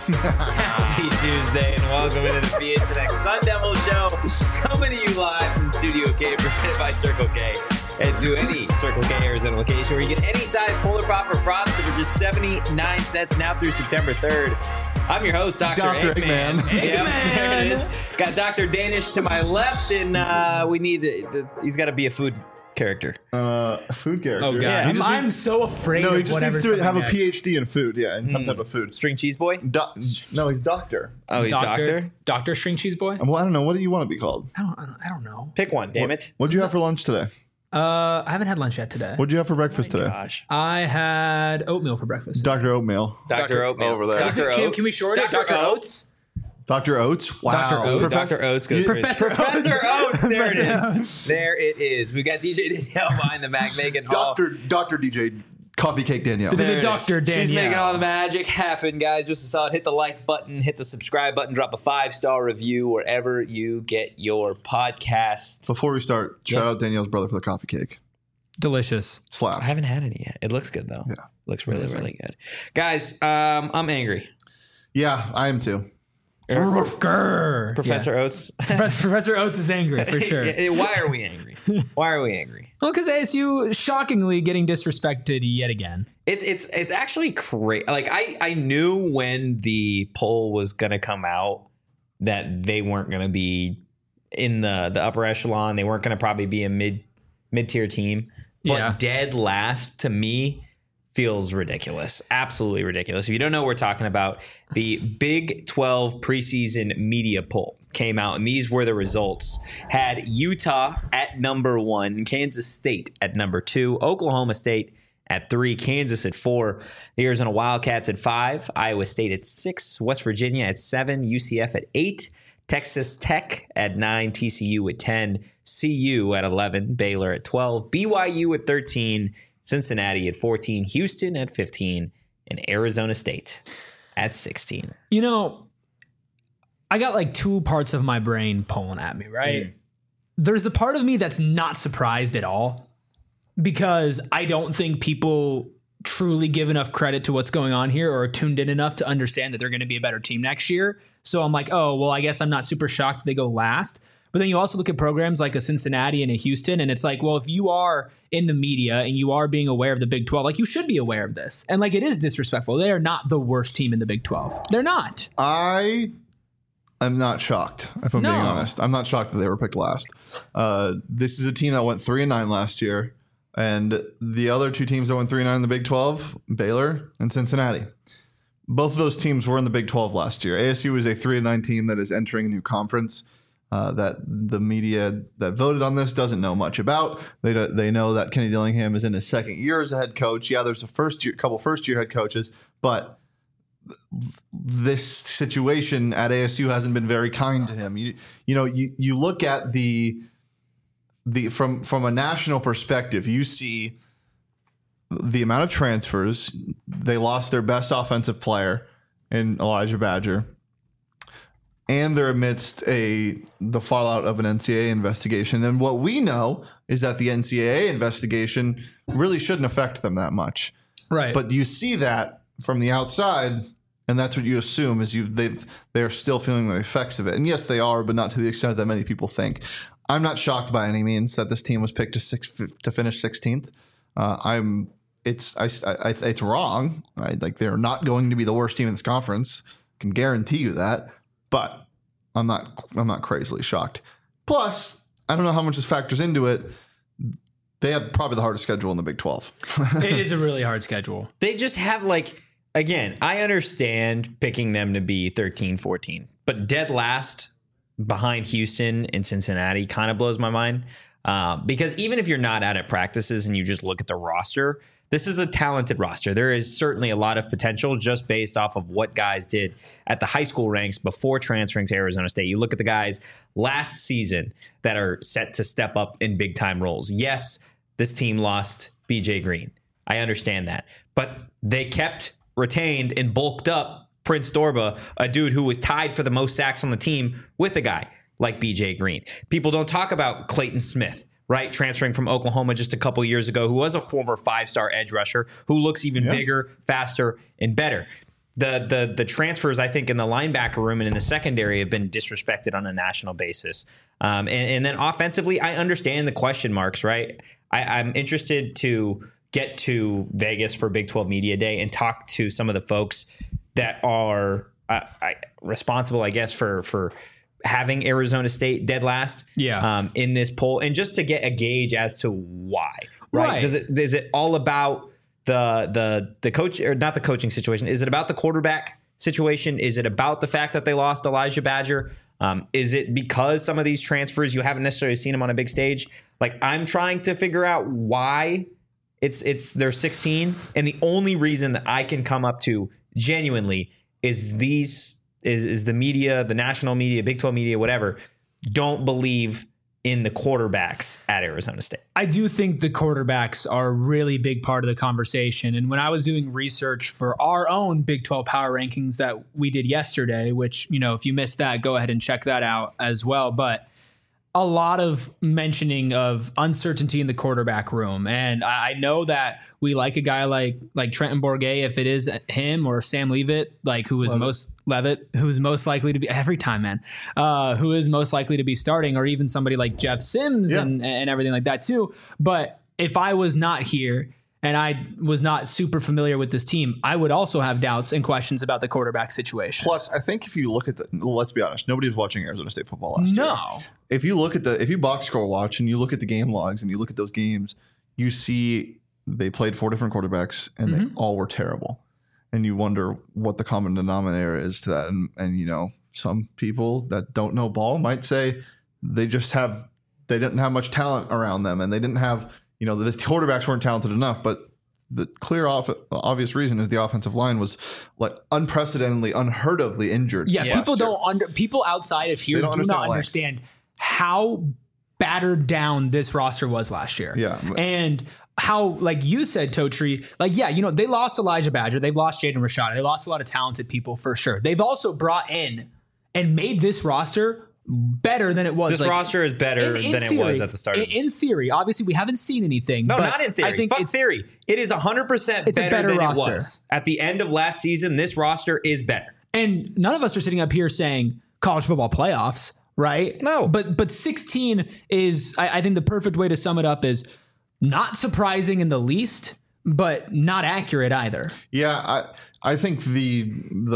Happy Tuesday and welcome into the PHNX Sun Devil Show. Coming to you live from Studio K, presented by Circle K. And to any Circle K Arizona location where you get any size Polar Pop or Frosted for just 79 cents now through September 3rd. I'm your host, Dr. Eggman. Eggman. Yep, there it is. Got Dr. Danish to my left, and we need he's got to be a food character. A food character. Oh, God. Yeah. I'm so afraid No, he of just whatever's needs to have a coming next. PhD in food, in some type of food. String cheese boy? No, he's doctor. Oh, he's doctor? Dr. String Cheese Boy? Well, I don't know. What do you want to be called? I don't know. Pick one, damn it. What'd you have for lunch today? I haven't had lunch yet today. What'd you have for breakfast today? Gosh. I had oatmeal for breakfast. Dr. Oatmeal. Dr. Oatmeal. Over there. Dr. Can- Oat. can we shorten it? Dr. Dr. Oats? Dr. Oats? Wow. Dr. Oats. Dr. Oats goes Professor Professor Oats. There it Professor is. There it is. We got DJ Danielle behind the Mac making all. Dr. DJ Coffee Cake Danielle. The There it is. Dr. She's Danielle. making all the magic happen, guys. Just a solid. Hit the like button, hit the subscribe button, drop a 5-star review wherever you get your podcast. Before we start, shout out Danielle's brother for the coffee cake. Delicious. Slap. I haven't had any yet. It looks good though. Yeah. Looks really, really good. Guys, I'm angry. Yeah, I am too. Grrr. Professor Yeah. Oats. Professor Oats is angry for sure. Why are we angry? Why are we angry? Well, because ASU shockingly getting disrespected yet again. It's actually crazy. Like I knew when the poll was gonna come out that they weren't gonna be in the upper echelon. They weren't gonna probably be a mid-tier team. But Yeah. dead last to me feels ridiculous. Absolutely ridiculous. If you don't know what we're talking about, the Big 12 preseason media poll came out, and these were the results. Had Utah at number 1, Kansas State at number 2, Oklahoma State at 3, Kansas at 4, the Arizona Wildcats at 5, Iowa State at 6, West Virginia at 7, UCF at 8, Texas Tech at 9, TCU at 10, CU at 11, Baylor at 12, BYU at 13, Cincinnati at 14, Houston at 15, and Arizona State at 16. You know, I got like two parts of my brain pulling at me, right? There's the part of me that's not surprised at all because I don't think people truly give enough credit to what's going on here or are tuned in enough to understand that they're going to be a better team next year. So I'm like, oh, well, I guess I'm not super shocked that they go last. But then you also look at programs like a Cincinnati and a Houston, and it's like, well, if you are in the media and you are being aware of the Big 12, like you should be aware of this. And like it is disrespectful. They are not the worst team in the Big 12. They're not. I am not shocked, if I'm being honest. I'm not shocked that they were picked last. This is a team that went 3-9 last year. And the other two teams that went 3-9 in the Big 12, Baylor and Cincinnati. Both of those teams were in the Big 12 last year. ASU is a 3-9 team that is entering a new conference that the media that voted on this doesn't know much about. They know that Kenny Dillingham is in his second year as a head coach. Yeah, there's a couple first-year head coaches, but this situation at ASU hasn't been very kind to him. You look at the from a national perspective, you see the amount of transfers. They lost their best offensive player in Elijah Badger, and they're amidst the fallout of an NCAA investigation. And what we know is that the NCAA investigation really shouldn't affect them that much. Right. But you see that from the outside, and that's what you assume is they're still feeling the effects of it. And yes, they are, but not to the extent that many people think. I'm not shocked by any means that this team was picked to finish 16th. It's wrong. Right? Like they're not going to be the worst team in this conference. I can guarantee you that. But I'm not crazily shocked. Plus, I don't know how much this factors into it. They have probably the hardest schedule in the Big 12. It is a really hard schedule. They just have again, I understand picking them to be 13, 14, but dead last behind Houston and Cincinnati kind of blows my mind. Because even if you're not out at practices and you just look at the roster, this is a talented roster. There is certainly a lot of potential just based off of what guys did at the high school ranks before transferring to Arizona State. You look at the guys last season that are set to step up in big time roles. Yes, this team lost BJ Green. I understand that. But they retained and bulked up Prince Dorba, a dude who was tied for the most sacks on the team with a guy like BJ Green. People don't talk about Clayton Smith, right? Transferring from Oklahoma just a couple years ago, who was a former 5-star edge rusher, who looks even bigger, faster, and better. the transfers, I think, in the linebacker room and in the secondary have been disrespected on a national basis. And then offensively, I understand the question marks, right? I'm interested to get to Vegas for Big 12 Media Day and talk to some of the folks that are responsible, I guess, for having Arizona State dead last in this poll, and just to get a gauge as to why. Right? Is it all about the coach, or not the coaching situation? Is it about the quarterback situation? Is it about the fact that they lost Elijah Badger? Is it because some of these transfers you haven't necessarily seen them on a big stage? Like, I'm trying to figure out why they're 16, and the only reason that I can come up to genuinely is the media, the national media, Big 12 media, whatever, don't believe in the quarterbacks at Arizona State. I do think the quarterbacks are a really big part of the conversation. And when I was doing research for our own Big 12 power rankings that we did yesterday, which, if you missed that, go ahead and check that out as well. But a lot of mentioning of uncertainty in the quarterback room. And I know that we like a guy like Trenton Bourguet, if it is him, or Sam Leavitt, who is most likely to be every time, man, who is most likely to be starting, or even somebody like Jeff Sims and everything like that too. But if I was not here and I was not super familiar with this team, I would also have doubts and questions about the quarterback situation. Plus, I think if you look at let's be honest, nobody was watching Arizona State football last year. No. If you box score watch and you look at the game logs and you look at those games, you see they played 4 different quarterbacks and they all were terrible. And you wonder what the common denominator is to that. And some people that don't know ball might say they didn't have much talent around them, and they didn't have, the quarterbacks weren't talented enough. But the clear obvious reason is the offensive line was unprecedentedly, unheard ofly injured. Yeah, people outside of here do not understand how battered down this roster was last year. Yeah. And how, like you said, Totri, they lost Elijah Badger. They've lost Jaden Rashada. They lost a lot of talented people for sure. They've also brought in and made this roster better than it was. This roster is better than it was at the start. In theory, obviously, we haven't seen anything. No, but not in theory. I think it's theory. It is 100% better than roster. It was. At the end of last season, this roster is better. And none of us are sitting up here saying college football playoffs, right? No. But 16 is, I think the perfect way to sum it up is not surprising in the least, but not accurate either. Yeah, I think the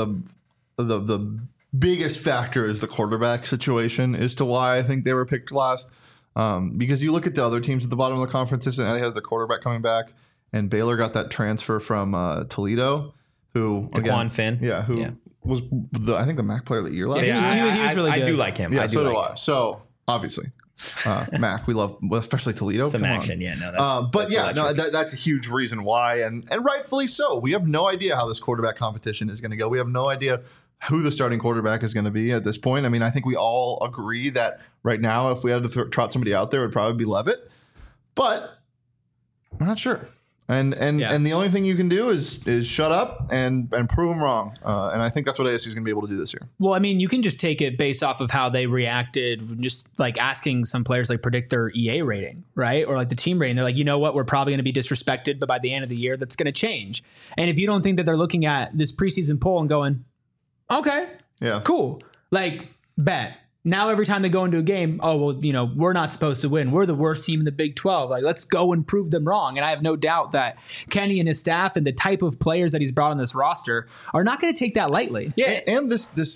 biggest factor is the quarterback situation as to why I think they were picked last. Because you look at the other teams at the bottom of the conference, Cincinnati has their quarterback coming back, and Baylor got that transfer from Toledo, who Daquan Finn. Yeah, was I think the MAC player of the year last year. He was really good. I do like him. Yeah, so do I. So obviously, MAC, we love, especially Toledo. Some action, that's a huge reason why, and rightfully so. We have no idea how this quarterback competition is going to go. We have no idea who the starting quarterback is going to be at this point. I mean, I think we all agree that right now, if we had to trot somebody out there, it would probably be Leavitt, but we're not sure. And the only thing you can do is shut up and prove them wrong. And I think that's what ASU is going to be able to do this year. Well, I mean, you can just take it based off of how they reacted, just like asking some players predict their EA rating, right? Or the team rating. They're like, you know what? We're probably going to be disrespected, but by the end of the year, that's going to change. And if you don't think that they're looking at this preseason poll and going, okay, cool, bet. Now every time they go into a game, we're not supposed to win. We're the worst team in the Big 12. Let's go and prove them wrong. And I have no doubt that Kenny and his staff and the type of players that he's brought on this roster are not going to take that lightly. Yeah, and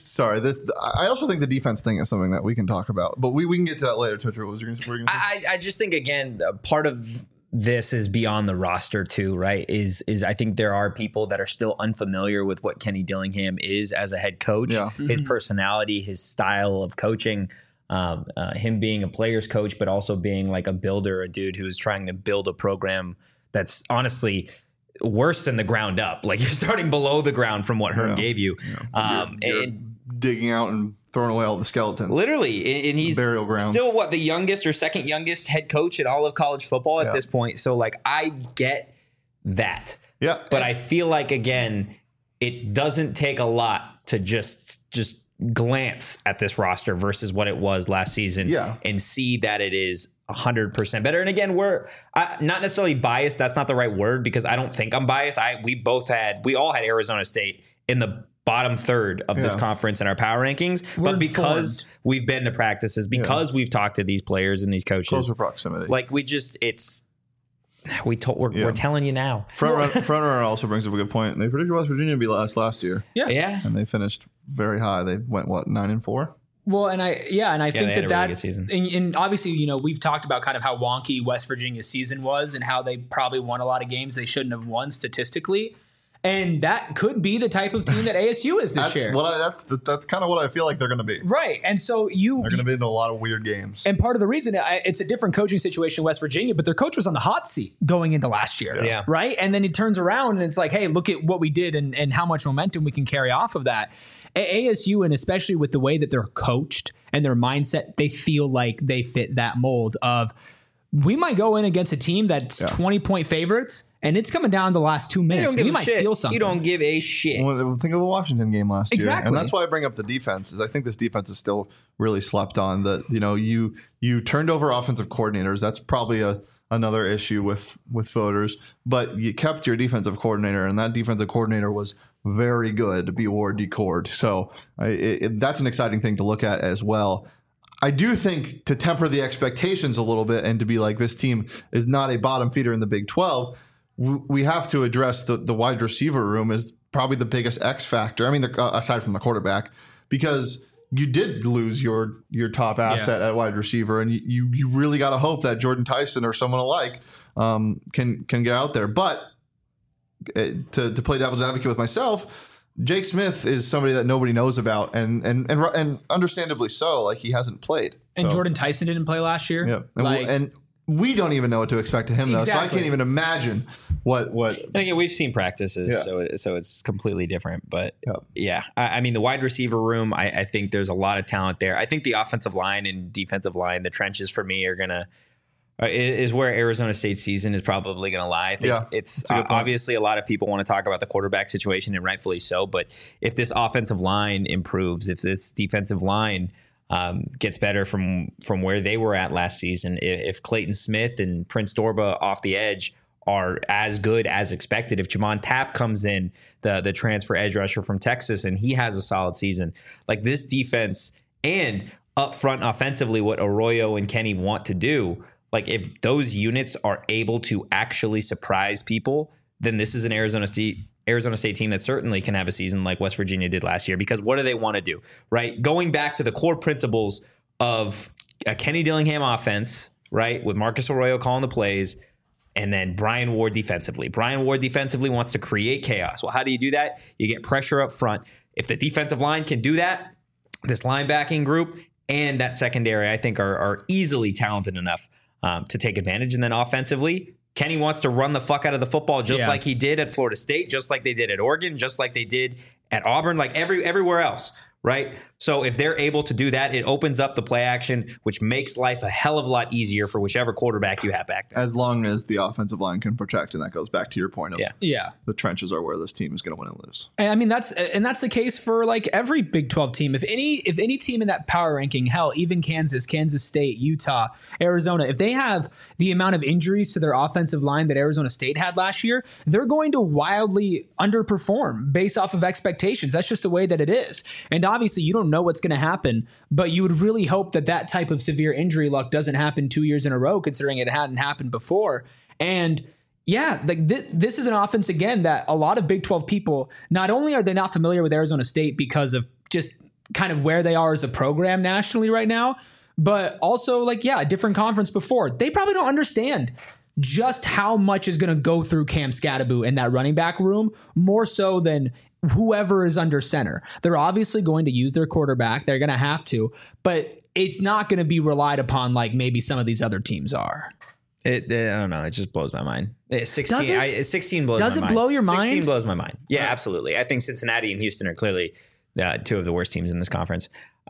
I also think the defense thing is something that we can talk about, but we can get to that later. What was you going to say? I just think, again, part of this is beyond the roster too, right? Is I think there are people that are still unfamiliar with what Kenny Dillingham is as a head coach, his personality, his style of coaching, him being a player's coach, but also being a builder, a dude who is trying to build a program that's honestly worse than the ground up. You're starting below the ground from what Herm gave you. You're digging out and throwing away all the skeletons. Literally. And he's still the youngest or second youngest head coach in all of college football at this point. So I get that. Yeah. But I feel again, it doesn't take a lot to just glance at this roster versus what it was last season and see that it is 100% better. And again, we're not necessarily biased. That's not the right word, because I don't think I'm biased. We all had Arizona State in the bottom third of this conference in our power rankings. But because we've been to practices, because we've talked to these players and these coaches, closer proximity. Like we're telling you now. Front runner also brings up a good point. They predicted West Virginia to be last year. Yeah. And they finished very high. They went 9-4. Well, and I think that really season. And obviously, you know, we've talked about kind of how wonky West Virginia's season was and how they probably won a lot of games they shouldn't have won statistically. And that could be the type of team that ASU is this year. That's kind of what I feel like they're going to be. Right. And so they're going to be in a lot of weird games. And part of the reason it's a different coaching situation in West Virginia, but their coach was on the hot seat going into last year. Yeah. Right. And then he turns around and it's like, hey, look at what we did and how much momentum we can carry off of that. ASU, and especially with the way that they're coached and their mindset, they feel like they fit that mold of we might go in against a team that's 20-point favorites, and it's coming down the last 2 minutes. We might steal something. You don't give a shit. Well, think of the Washington game last year. Exactly. And that's why I bring up the defense, is I think this defense is still really slept on. That, you know, you turned over offensive coordinators. That's probably another issue with voters. But you kept your defensive coordinator, and that defensive coordinator was very good to be Ward decored. So that's an exciting thing to look at as well. I do think to temper the expectations a little bit and to be like, this team is not a bottom feeder in the Big 12, we have to address the wide receiver room as probably the biggest X factor. I mean, aside from the quarterback, because you did lose your top asset at wide receiver, and you really got to hope that Jordan Tyson or someone alike can get out there. But to play devil's advocate with myself, Jake Smith is somebody that nobody knows about, and understandably so. Like, he hasn't played. And Jordan Tyson didn't play last year. Yeah, and we don't even know what to expect of him, though. So I can't even imagine what. And again, we've seen practices, so it's completely different. But I mean, the wide receiver room, I think there's a lot of talent there. I think the offensive line and defensive line, the trenches for me are gonna. Is where Arizona State's season is probably going to lie. I think it's obviously a lot of people want to talk about the quarterback situation, and rightfully so. But if this offensive line improves, if this defensive line gets better from where they were at last season, if Clayton Smith and Prince Dorba off the edge are as good as expected, if Jamon Tapp comes in, the transfer edge rusher from Texas, and he has a solid season, like this defense and up front offensively, what Arroyo and Kenny want to do. Like, if those units are able to actually surprise people, then this is an Arizona State team that certainly can have a season like West Virginia did last year. Because what do they want to do, right? Going back to the core principles of a Kenny Dillingham offense, right, with Marcus Arroyo calling the plays, and then Brian Ward defensively. Brian Ward defensively wants to create chaos. Well, how do you do that? You get pressure up front. If the defensive line can do that, this linebacking group and that secondary, I think, are easily talented enough to take advantage. And then offensively, Kenny wants to run the fuck out of the football just like he did at Florida State, just like they did at Oregon, just like they did at Auburn, like everywhere else, right? So if they're able to do that, it opens up the play action, which makes life a hell of a lot easier for whichever quarterback you have back there. As long as the offensive line can protect, and that goes back to your point of the trenches are where this team is going to win and lose. And I mean, that's the case for like every Big 12 team. If any team in that power ranking, hell, even Kansas State, Utah, Arizona, if they have the amount of injuries to their offensive line that Arizona State had last year, they're going to wildly underperform based off of expectations. That's just the way that it is. And obviously, you don't know what's going to happen, but you would really hope that type of severe injury luck doesn't happen 2 years in a row, considering it hadn't happened before. And like this is an offense, again, that a lot of Big 12 people, not only are they not familiar with Arizona State because of just kind of where they are as a program nationally right now, but also like, a different conference before, they probably don't understand just how much is going to go through Cam Scatterbo in that running back room, more so than whoever is under center. They're obviously going to use their quarterback. They're going to have to, but it's not going to be relied upon like maybe some of these other teams are. I don't know. It just blows my mind. 16 blows my mind. Does it blow your mind? 16 blows my mind. Yeah, absolutely. I think Cincinnati and Houston are clearly two of the worst teams in this conference.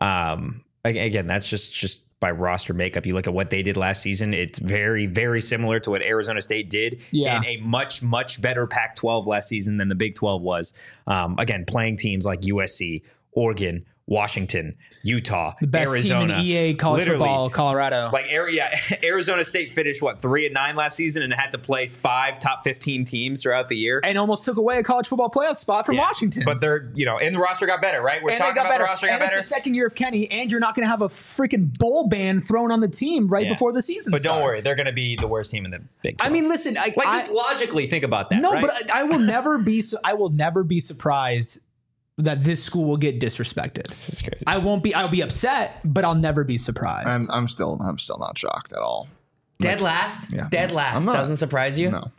Again, that's just by roster makeup. You look at what they did last season, it's very, very similar to what Arizona State did in a much, much better Pac-12 last season than the Big 12 was. Again, playing teams like USC, Oregon, Washington, Utah, The best Arizona, team in EA college football, Colorado. Like Arizona State finished 3-9 last season and had to play 5 top 15 teams throughout the year, and almost took away a college football playoff spot from Washington. But they're and the roster got better, right? We're talking about the roster got better. It's the second year of Kenny, and you're not going to have a freaking bowl ban thrown on the team before the season. But starts. don't worry, they're going to be the worst team in the Big 12. I mean, listen, just logically think about that. No, right? but I will never be. I will never be surprised that this school will get disrespected. This is crazy. I'll be upset, but I'll never be surprised. I'm still not shocked at all. Dead last. Yeah. Dead last doesn't surprise you. No.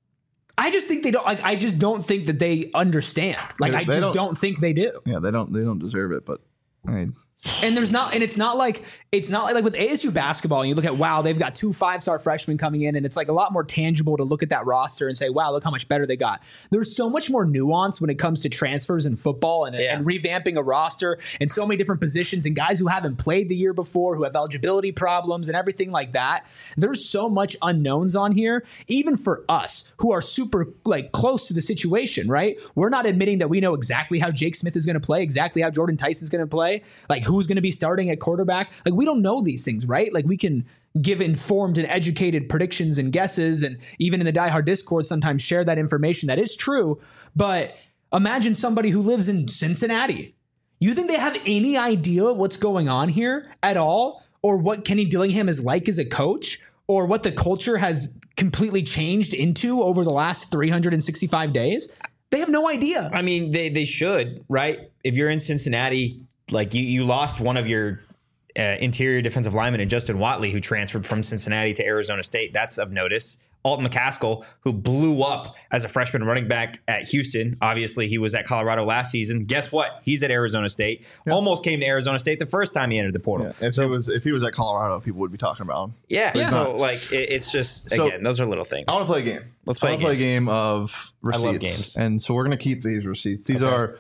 I just think they don't. I just don't think that they understand. I don't think they do. Yeah, they don't deserve it. But I mean, and it's not like with ASU basketball. And you look at they've got 2 5-star freshmen coming in, and it's like a lot more tangible to look at that roster and say, wow, look how much better they got. There's so much more nuance when it comes to transfers in football and revamping a roster and so many different positions and guys who haven't played the year before, who have eligibility problems and everything like that. There's so much unknowns on here, even for us who are super close to the situation, right? We're not admitting that we know exactly how Jake Smith is going to play, exactly how Jordan Tyson's going to play, who's going to be starting at quarterback. We don't know these things, right? We can give informed and educated predictions and guesses, and even in the Die Hard Discord sometimes share that information that is true. But imagine somebody who lives in Cincinnati. You think they have any idea what's going on here at all, or what Kenny Dillingham is like as a coach, or what the culture has completely changed into over the last 365 days? They have no idea. I mean, they should, right? If you're in Cincinnati, you lost one of your interior defensive lineman in Justin Watley, who transferred from Cincinnati to Arizona State. That's of notice. Alton McCaskill, who blew up as a freshman running back at Houston. Obviously, he was at Colorado last season. Guess what? He's at Arizona State. Yep. Almost came to Arizona State the first time he entered the portal. Yeah, if he was at Colorado, people would be talking about him. Yeah. So it's just, again, those are little things. I want to play a game. Let's play a game of receipts. I love games. And so we're going to keep these receipts. These are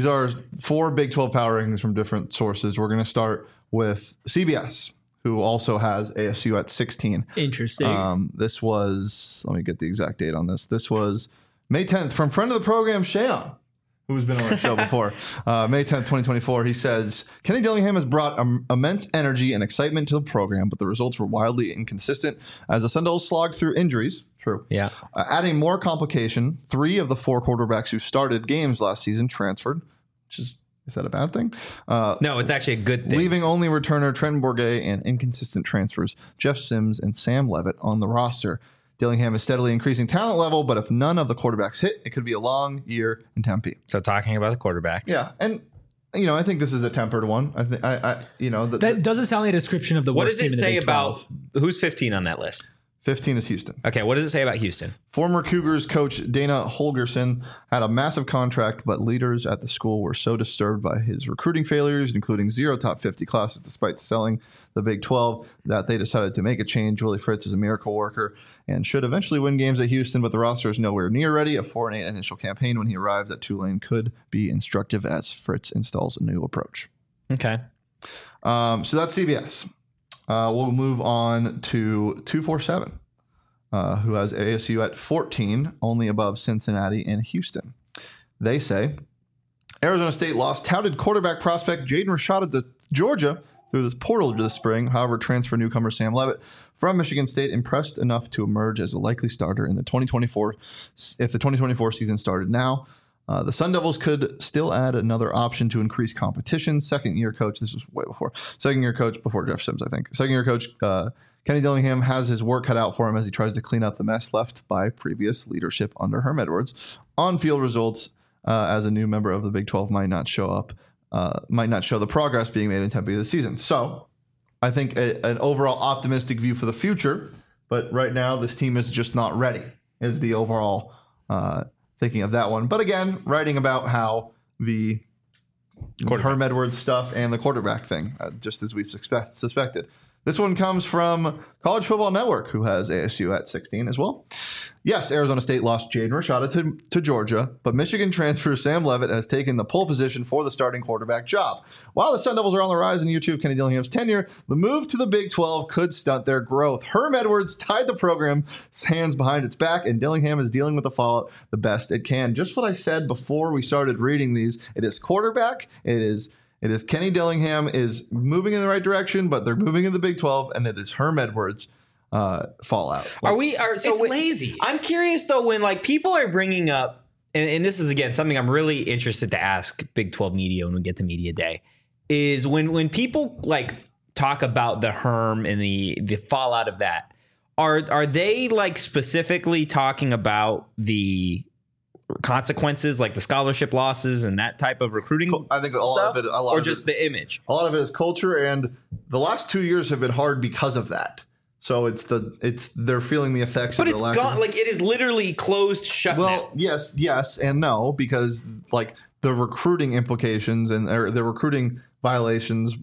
4 Big 12 power rankings from different sources. We're going to start with CBS, who also has ASU at 16. Interesting. This was, let me get the exact date on this. This was May 10th from friend of the program, Shayon, who's been on our show before. May 10th, 2024. He says, Kenny Dillingham has brought immense energy and excitement to the program, but the results were wildly inconsistent as the Sun Devils slogged through injuries. True. Yeah. Adding more complication, 3 of the 4 quarterbacks who started games last season transferred, which is that a bad thing? No, it's actually a good thing. Leaving only returner Trenton Bourget and inconsistent transfers Jeff Sims and Sam Levitt on the roster. Dillingham is steadily increasing talent level, but if none of the quarterbacks hit, it could be a long year in Tempe. So talking about the quarterbacks. Yeah. And, I think this is a tempered one. That doesn't sound like a description of the worst team in the Big 12. What does it say about who's 15 on that list? 15 is Houston. Okay, what does it say about Houston? Former Cougars coach Dana Holgerson had a massive contract, but leaders at the school were so disturbed by his recruiting failures, including 0 top 50 classes despite selling the Big 12, that they decided to make a change. Willie Fritz is a miracle worker and should eventually win games at Houston, but the roster is nowhere near ready. A 4-8 initial campaign when he arrived at Tulane could be instructive as Fritz installs a new approach. Okay. So that's CBS. We'll move on to 247, who has ASU at 14, only above Cincinnati and Houston. They say Arizona State lost touted quarterback prospect Jaden Rashada to Georgia through this portal this spring. However, transfer newcomer Sam Levitt from Michigan State impressed enough to emerge as a likely starter in the 2024 if the 2024 season started now. The Sun Devils could still add another option to increase competition. Second-year coach, this was way before. Second-year coach before Jeff Sims, I think. Second-year coach Kenny Dillingham has his work cut out for him as he tries to clean up the mess left by previous leadership under Herm Edwards. On-field results as a new member of the Big 12 might not show the progress being made in Tempe this season. So I think an overall optimistic view for the future, but right now this team is just not ready, is the overall thinking of that one. But again, writing about how the Herm Edwards stuff and the quarterback thing, just as we suspected. This one comes from College Football Network, who has ASU at 16 as well. Yes, Arizona State lost Jaden Rashada to Georgia, but Michigan transfer Sam Levitt has taken the pole position for the starting quarterback job. While the Sun Devils are on the rise in year 2 of Kenny Dillingham's tenure, the move to the Big 12 could stunt their growth. Herm Edwards tied the program's hands behind its back, and Dillingham is dealing with the fallout the best it can. Just what I said before we started reading these. It is quarterback, it is It is Kenny Dillingham is moving in the right direction, but they're moving in the Big 12, and it is Herm Edwards fallout. It's lazy. I'm curious though, when like people are bringing up, and this is again something I'm really interested to ask Big 12 media when we get to media day, is when people like talk about the Herm and the fallout of that, are they like specifically talking about the consequences, like the scholarship losses and that type of recruiting? I think a lot of it, or just the image. A lot of it is culture, and the last 2 years have been hard because of that. So they're feeling the effects. But of it's the lack gone. of, Like it is literally closed shut. Well, now. yes, and no, because like the recruiting implications and the recruiting violations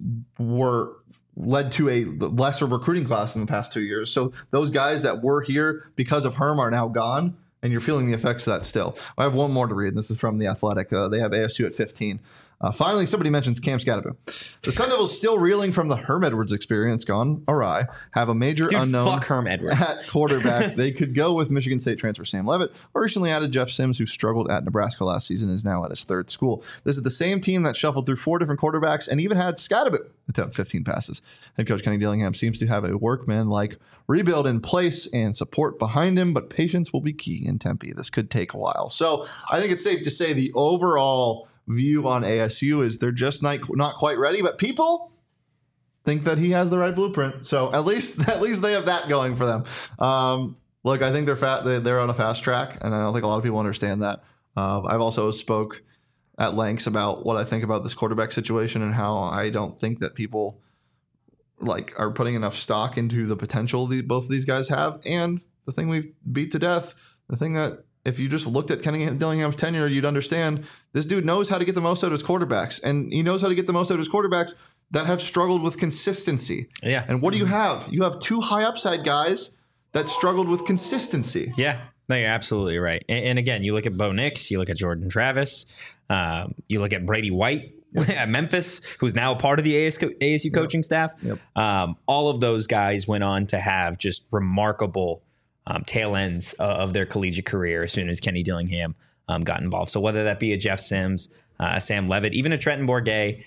led to a lesser recruiting class in the past 2 years. So those guys that were here because of Herm are now gone. And you're feeling the effects of that still. I have one more to read. And this is from The Athletic. They have ASU at 15. Finally, somebody mentions Cam Scatterbo. The Sun Devils still reeling from the Herm Edwards experience gone awry. Have a major unknown fuck Herm Edwards. At quarterback. They could go with Michigan State transfer Sam Levitt, or recently added Jeff Sims, who struggled at Nebraska last season and is now at his third school. This is the same team that shuffled through 4 different quarterbacks and even had Scatterbo attempt 15 passes. Head coach Kenny Dillingham seems to have a workman-like rebuild in place and support behind him, but patience will be key in Tempe. This could take a while. So I think it's safe to say the overall view on ASU is they're just not quite ready, but people think that he has the right blueprint. So at least they have that going for them. Look, I think they're on a fast track, and I don't think a lot of people understand that. I've also spoke at lengths about what I think about this quarterback situation and how I don't think that people like are putting enough stock into the potential both of these guys have. And the thing we've beat to death, the thing that if you just looked at Kenny Dillingham's tenure, you'd understand this dude knows how to get the most out of his quarterbacks, and he knows how to get the most out of his quarterbacks that have struggled with consistency. Yeah. And what do you have? You have 2 high upside guys that struggled with consistency. Yeah. No, you're absolutely right. And again, you look at Bo Nix, you look at Jordan Travis, you look at Brady White at Memphis, who's now a part of the ASU coaching staff. Yep. All of those guys went on to have just remarkable tail ends of their collegiate career as soon as Kenny Dillingham got involved. So whether that be a Jeff Sims, a Sam Levitt, even a Trenton Bourguet,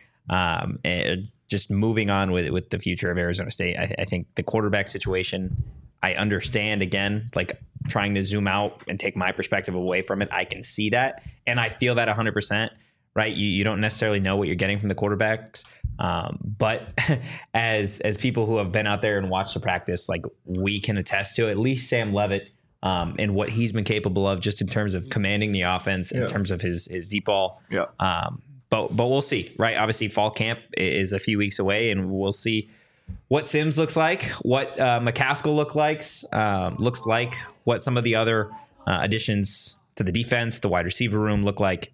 just moving on with the future of Arizona State, I think the quarterback situation, I understand, again, like trying to zoom out and take my perspective away from it. I can see that, and I feel that 100%. Right, you don't necessarily know what you're getting from the quarterbacks, but as people who have been out there and watched the practice, like we can attest to at least Sam Levitt and what he's been capable of, just in terms of commanding the offense, in terms of his deep ball. Yeah. But we'll see. Right, obviously fall camp is a few weeks away, and we'll see what Sims looks like, what McCaskill looks like, what some of the other additions to the defense, the wide receiver room look like.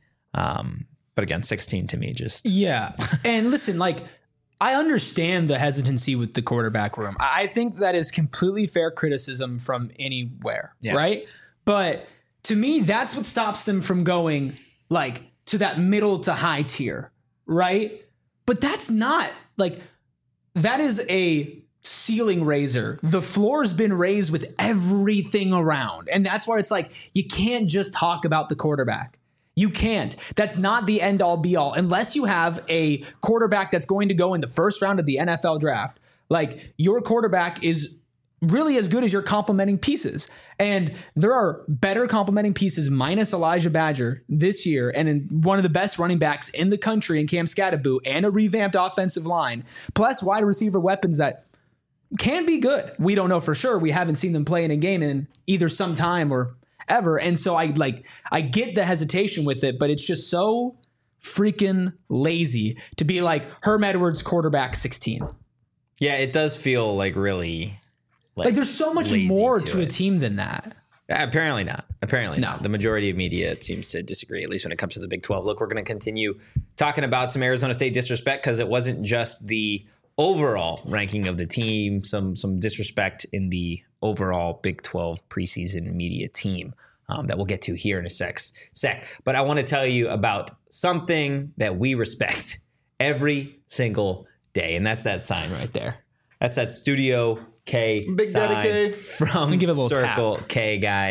But again, 16 to me just... Yeah. And listen, like, I understand the hesitancy with the quarterback room. I think that is completely fair criticism from anywhere, right? But to me, that's what stops them from going, like, to that middle to high tier, right? But that's not, like, that is a ceiling raiser. The floor's been raised with everything around. And that's why it's like, you can't just talk about the quarterback. You can't. That's not the end all be all. Unless you have a quarterback that's going to go in the first round of the NFL draft, like your quarterback is really as good as your complementing pieces. And there are better complementing pieces minus Elijah Badger this year, and in one of the best running backs in the country in Cam Scatterbo, and a revamped offensive line, plus wide receiver weapons that can be good. We don't know for sure. We haven't seen them play in a game in either some time or ever. And so I get the hesitation with it, but it's just so freaking lazy to be like Herm Edwards quarterback 16. Yeah, it does feel like really like there's so much more to a team than that. Apparently not. The majority of media seems to disagree, at least when it comes to the Big 12. Look, we're going to continue talking about some Arizona State disrespect, because it wasn't just the overall ranking of the team, some disrespect in the overall Big 12 preseason media team that we'll get to here in a sec. But I want to tell you about something that we respect every single day, and that's that sign right there. That's that Studio K Big sign Daddy K from give it a little Circle tap. K, guys.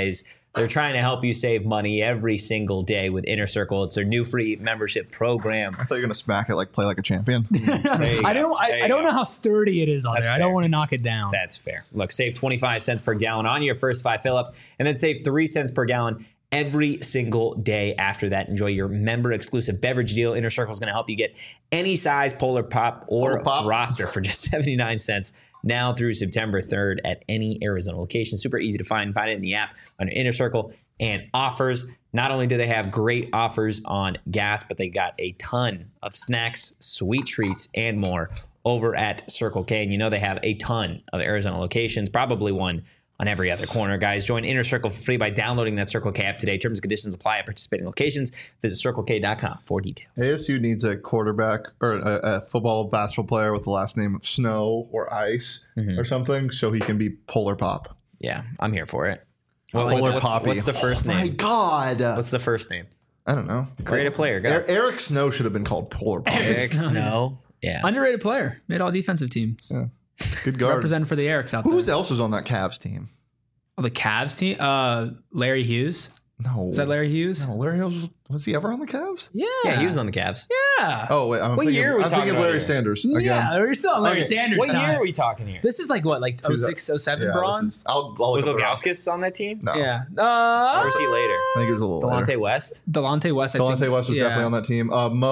They're trying to help you save money every single day with Inner Circle. It's their new free membership program. I thought you were gonna smack it like play like a champion. I don't know how sturdy it is on there. Fair. I don't want to knock it down. That's fair. Look, save 25 cents per gallon on your first 5 fill-ups, and then save 3 cents per gallon every single day after that. Enjoy your member-exclusive beverage deal. Inner Circle is going to help you get any size Polar Pop or Froster for just 79 cents now through September 3rd at any Arizona location. Super easy to find. Find it in the app under Inner Circle and offers. Not only do they have great offers on gas, but they got a ton of snacks, sweet treats, and more over at Circle K. And you know they have a ton of Arizona locations, probably one on every other corner. Guys, join Inner Circle for free by downloading that Circle K app today. Terms and conditions apply at participating locations. Visit CircleK.com for details. ASU needs a quarterback or a football basketball player with the last name of Snow or Ice or something so he can be Polar Pop. Yeah, I'm here for it. Polar Poppy. What's the first name? My God. What's the first name? I don't know. Create a player. Go. Eric Snow should have been called Polar Pop. Eric Snow. Yeah. Underrated player. Made all defensive teams. Yeah. Good guard. Representing for the Erics out there. Who else was on that Cavs team? Oh, the Cavs team? Larry Hughes. No. Is that Larry Hughes? No, Larry Hughes. Was he ever on the Cavs? Yeah, he was on the Cavs. Yeah. Oh, wait. I'm thinking of Larry Sanders. Again. Yeah, we're still on Larry Sanders. What time. year are we talking here? This is like what, like 06, 07 Yeah, bronze? I'll Was look up Ilgauskas on that team? No. Yeah. Or was he later? I think it was a little Delonte later. West? Delonte West. Delonte West was definitely on that team.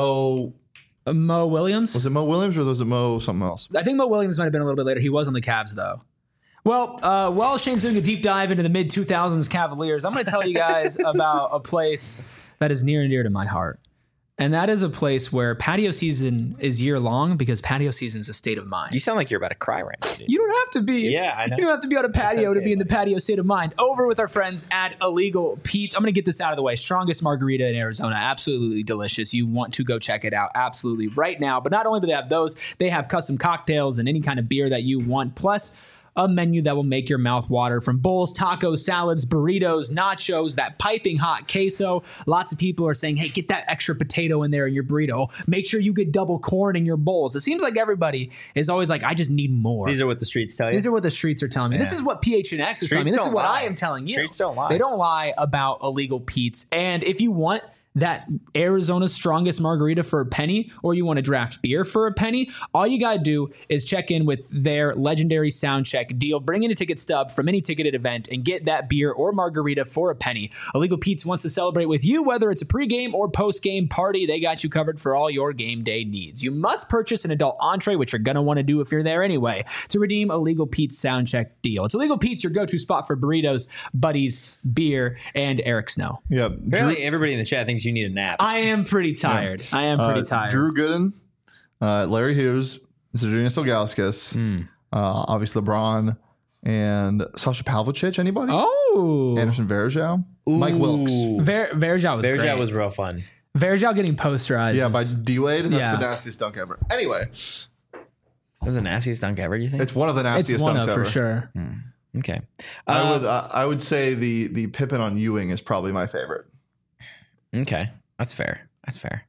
Mo Williams? Was it Mo Williams or was it Mo something else? I think Mo Williams might have been a little bit later. He was on the Cavs, though. Well, while Shane's doing a deep dive into the mid-2000s Cavaliers, I'm going to tell you guys about a place that is near and dear to my heart. And that is a place where patio season is year-long because patio season is a state of mind. You sound like you're about to cry right now, dude. You don't have to be. Yeah, I know. You don't have to be on a patio okay, to be in the patio state of mind. Over with our friends at Illegal Pete's. I'm going to get this out of the way. Strongest margarita in Arizona. Absolutely delicious. You want to go check it out absolutely right now. But not only do they have those, they have custom cocktails and any kind of beer that you want. Plus, a menu that will make your mouth water, from bowls, tacos, salads, burritos, nachos, that piping hot queso. Lots of people are saying, hey, get that extra potato in there in your burrito. Make sure you get double corn in your bowls. It seems like everybody is always like, I just need more. These are what the streets tell you? These are what the streets are telling me. Yeah. This is what PHNX is telling me. This is what I am telling you. Streets don't lie. They don't lie about Illegal Pete's. And if you want that Arizona's strongest margarita for a penny, or you want to draft beer for a penny, all you got to do is check in with their legendary sound check deal. Bring in a ticket stub from any ticketed event and get that beer or margarita for a penny. Illegal Pete's wants to celebrate with you, whether it's a pregame or postgame party. They got you covered for all your game day needs. You must purchase an adult entree, which you're going to want to do if you're there anyway, to redeem Illegal Pete's sound check deal. It's Illegal Pete's, your go-to spot for burritos, buddies, beer, and Eric Snow. Yeah. Apparently, everybody in the chat thinks you need a nap. I am pretty tired. I am pretty tired. Drew Gooden, Larry Hughes, Zydrunas Ilgauskas, obviously LeBron, and Sasha Pavlovich. Anybody? Oh. Anderson Varejao. Mike Wilkes. Varejao was great. Varejao was real fun. Varejao getting posterized. Yeah, by D-Wade. That's Yeah. the nastiest dunk ever. Anyway, That's the nastiest dunk ever, you think? it's one of the It's nastiest one dunks of ever. for sure. Okay. I would say the Pippen on Ewing is probably my favorite. Okay. That's fair. That's fair.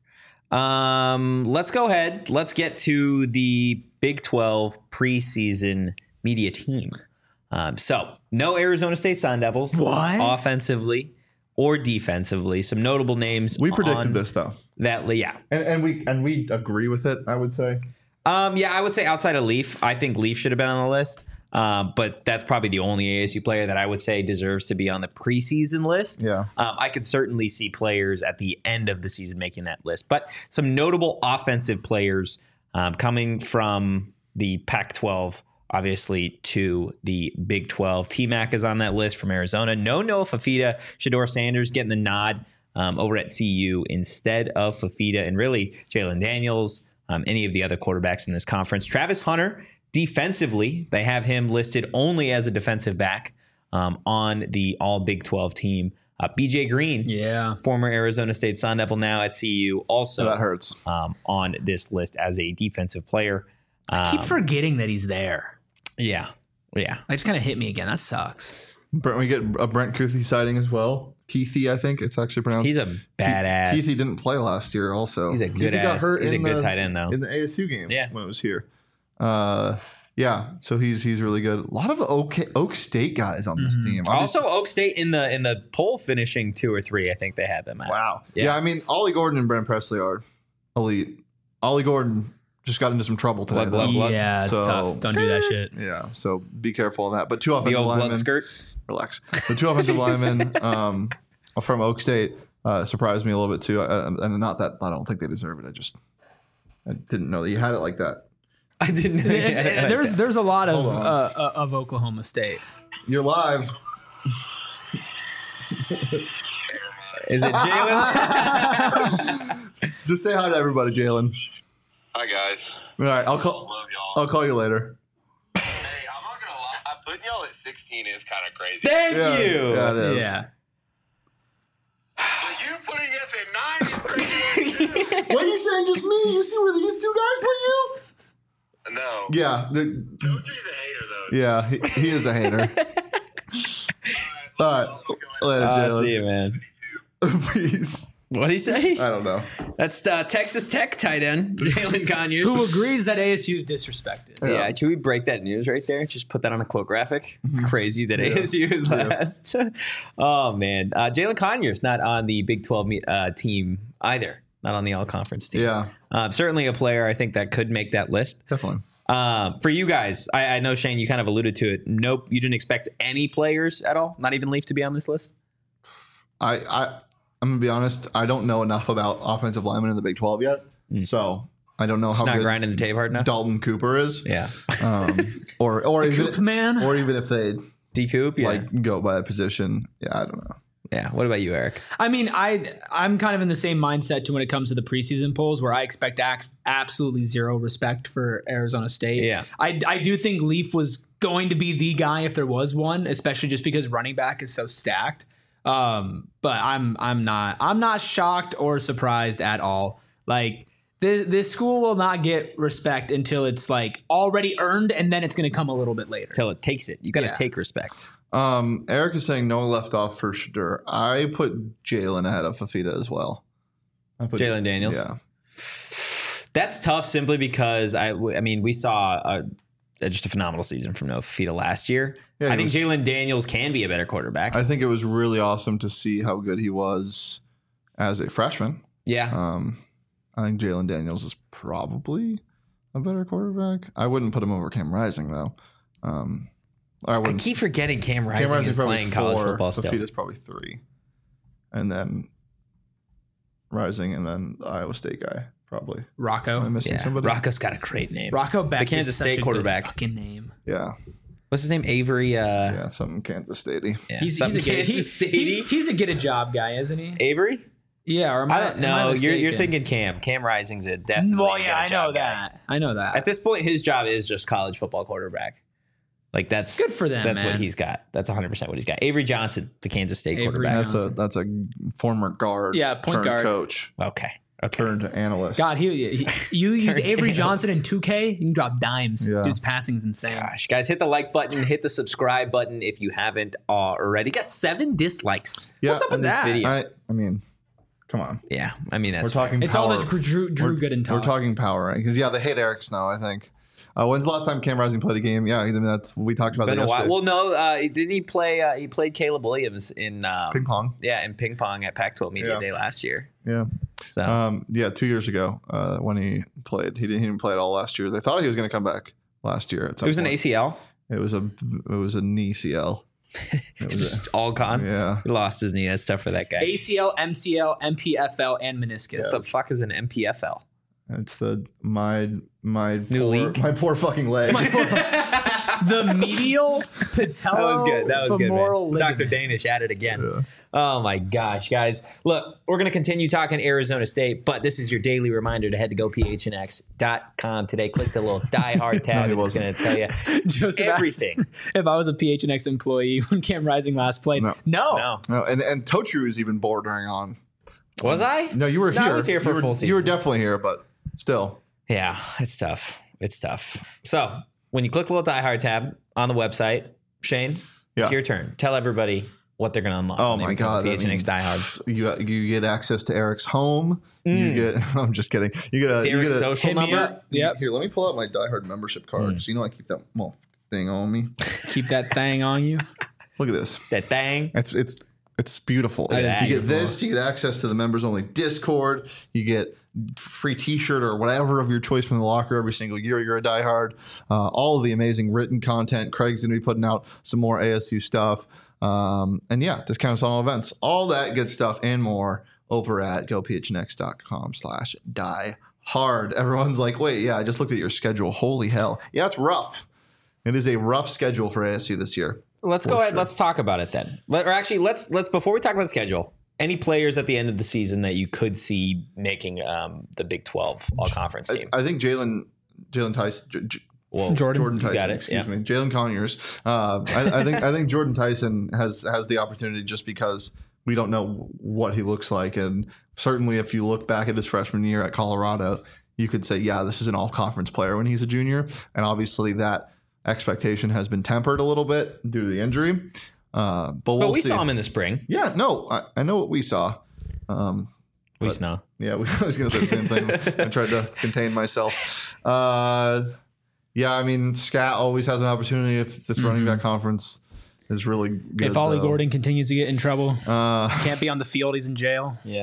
Let's go ahead. Let's get to the Big 12 preseason media team. So, no Arizona State Sun Devils. What? Offensively or defensively. Some notable names. We predicted on this though, that, yeah. and we agree with it. I would say. Yeah, I would say outside of Leaf, I think Leaf should have been on the list. But that's probably the only ASU player that I would say deserves to be on the preseason list. Yeah. I could certainly see players at the end of the season making that list. But some notable offensive players coming from the Pac-12, obviously, to the Big 12. T-Mac is on that list from Arizona. No Noah Fafita. Shedeur Sanders getting the nod over at CU instead of Fafita. And really, Jalen Daniels, any of the other quarterbacks in this conference. Travis Hunter, defensively, they have him listed only as a defensive back on the all Big 12 team. BJ Green, former Arizona State Sun Devil, now at CU, also that hurts. On this list as a defensive player. I keep forgetting that he's there. Yeah. That just kind of hit me again. That sucks. We get a Brent Kuithe sighting as well. Keithy, I think it's actually pronounced. He's a badass. Keithy didn't play last year also. He's a good ass. He's a good tight end, though. In the ASU game when it was here. Yeah, so he's really good. A lot of Oak State guys on this team. Also, Oak State in the poll finishing 2 or 3. I think they had them at. Wow. Yeah, I mean, Ollie Gordon and Brent Presley are elite. Ollie Gordon just got into some trouble today. Blood. Yeah, it's tough. Don't do that shit. Yeah, so be careful on that. But 2 offensive The old linemen. blood skirt. Relax. The 2 offensive linemen from Oak State surprised me a little bit too. And not that I don't think they deserve it. I didn't know that you had it like that. I didn't know. There's a lot of Oklahoma State. You're live. Is it Jalen? Just say hi to everybody, Jalen. Hi guys. All right, love y'all. I'll call you later. Hey, I'm not gonna lie. Putting y'all at 16 is kind of crazy. Thank you. Yeah, it is. Yeah. But you putting us at 9 is crazy. What are you saying? Just me? You see where these 2 guys put you? No. Yeah. Toadry's a hater though. Yeah, he is a hater. All right. Later, Jalen. See you, man. Peace. What'd he say? I don't know. That's Texas Tech tight end, Jalen Conyers. Who agrees that ASU's disrespected? Yeah, should we break that news right there? Just put that on a quote graphic. It's crazy that ASU is last. Oh, man. Jalen Conyers not on the Big 12 team either. Not on the all-conference team. Yeah. Certainly a player I think that could make that list. Definitely. For you guys, I know, Shane, you kind of alluded to it. Nope, you didn't expect any players at all? Not even Leaf to be on this list? I'm going to be honest. I don't know enough about offensive linemen in the Big 12 yet. So I don't know how Not good grinding the tape hard enough? Dalton Cooper is. Yeah. Or even Coop man. or even if they D-Coop? Yeah. go by a position. Yeah, I don't know. Yeah. What about you, Eric? I mean, I'm kind of in the same mindset to when it comes to the preseason polls, where I expect absolutely zero respect for Arizona State. Yeah. I do think Leaf was going to be the guy if there was one, especially just because running back is so stacked. But I'm not shocked or surprised at all. Like this school will not get respect until it's like already earned, and then it's going to come a little bit later. Till it takes it. You got to take respect. Eric is saying no left off for Shadur. I put Jalen ahead of Fafita as well. Jalen Daniels? Yeah. That's tough simply because, I mean, we saw just a phenomenal season from Noah Fafita last year. Yeah, I think Jalen Daniels can be a better quarterback. I think it was really awesome to see how good he was as a freshman. Yeah. I think Jalen Daniels is probably a better quarterback. I wouldn't put him over Cam Rising, though. I keep forgetting Cam Rising is playing college football still. Fafita's probably 3. And then Rising, and then the Iowa State guy, probably. Rocco. Am I missing somebody? Rocco's got a great name. Rocco Beck, the Kansas State quarterback. Fucking name. Yeah. What's his name? Avery. Yeah, something Kansas Statey. Yeah, He's a get a job guy, isn't he? Avery. Yeah, or I don't know. You're thinking Cam. Cam Rising's a definitely. Well, yeah, I know guy. that. I know that. At this point, his job is just college football quarterback. Like that's good for them. That's man. what he's got. That's 100% what he's got. Avery Johnson, the Kansas State quarterback. That's a former guard. Yeah, point guard coach. Okay. Turned analyst. God, you use Avery Johnson in 2K, you can drop dimes. Yeah. Dude's passing is insane. Gosh, guys, hit the like button, hit the subscribe button if you haven't already. Got 7 dislikes. Yeah, What's up with that? Video? I mean, come on. Yeah, I mean that's. We're talking. It's power. all that Drew Gooden talk. We're talking power, right? Because they hate Eric Snow. I think. When's the last time Cam Rising played a game? Yeah, I mean, that's we talked about. Been that a while. yesterday. Well, no, didn't he play? He played Caleb Williams in ping pong. Yeah, in ping pong at Pac-12 Media Day last year. Yeah. So 2 years ago when he played, he didn't play at all last year. They thought he was going to come back last year. At some it was point. an ACL. It was a knee CL. It was all gone. Yeah, he lost his knee. That's tough for that guy. ACL, MCL, MPFL, and meniscus. What the fuck is an MPFL? It's my new league. My poor fucking leg. The medial patella. That was good, man. Ligament. Dr. Danish at it again. Yeah. Oh my gosh, guys. Look, we're going to continue talking Arizona State, but this is your daily reminder to head to gophnx.com today. Click the little Die Hard tab. No, it's going to tell you Joseph everything. If I was a PHNX employee when Cam Rising last played, no. And Totru was even bordering on. Was I? No, you were here. I was here for a full season. You were definitely here, but still. Yeah, it's tough. It's tough. So when you click the little Die Hard tab on the website, Shane, it's your turn. Tell everybody what they're going to unlock. Oh when they my become a God! PHNX diehard. You get access to Eric's home. You get. I'm just kidding. You get a. You Derek's get a social Hit me number. up. Yep. Here, let me pull out my diehard membership card because you know I keep that thing on me. Keep that thing on you. Look at this. That thing. It's beautiful. That is You get beautiful. this. You get access to the members only Discord. You get free T-shirt or whatever of your choice from the locker every single year. You're a diehard. All of the amazing written content. Craig's going to be putting out some more ASU stuff. And yeah, discounts on all events. All that good stuff and more over at gophnx.com/diehard. Everyone's like, wait, yeah, I just looked at your schedule. Holy hell. Yeah, it's rough. It is a rough schedule for ASU this year. Let's go ahead. Let's talk about it then. Let's before we talk about the schedule, any players at the end of the season that you could see making the Big 12 all conference team? I think Jalen Tyson. Jordan Tyson, got it, excuse yeah. me, Jalen Conyers. I think Jordan Tyson has the opportunity just because we don't know what he looks like, and certainly if you look back at his freshman year at Colorado, you could say, yeah, this is an all-conference player when he's a junior, and obviously that expectation has been tempered a little bit due to the injury. But we saw him in the spring. Yeah, no, I know what we saw. We saw. Yeah, I was going to say the same thing. I tried to contain myself. Yeah, I mean, Scat always has an opportunity if this running back conference is really good. If Ollie though. Gordon continues to get in trouble, can't be on the field, he's in jail. Yeah.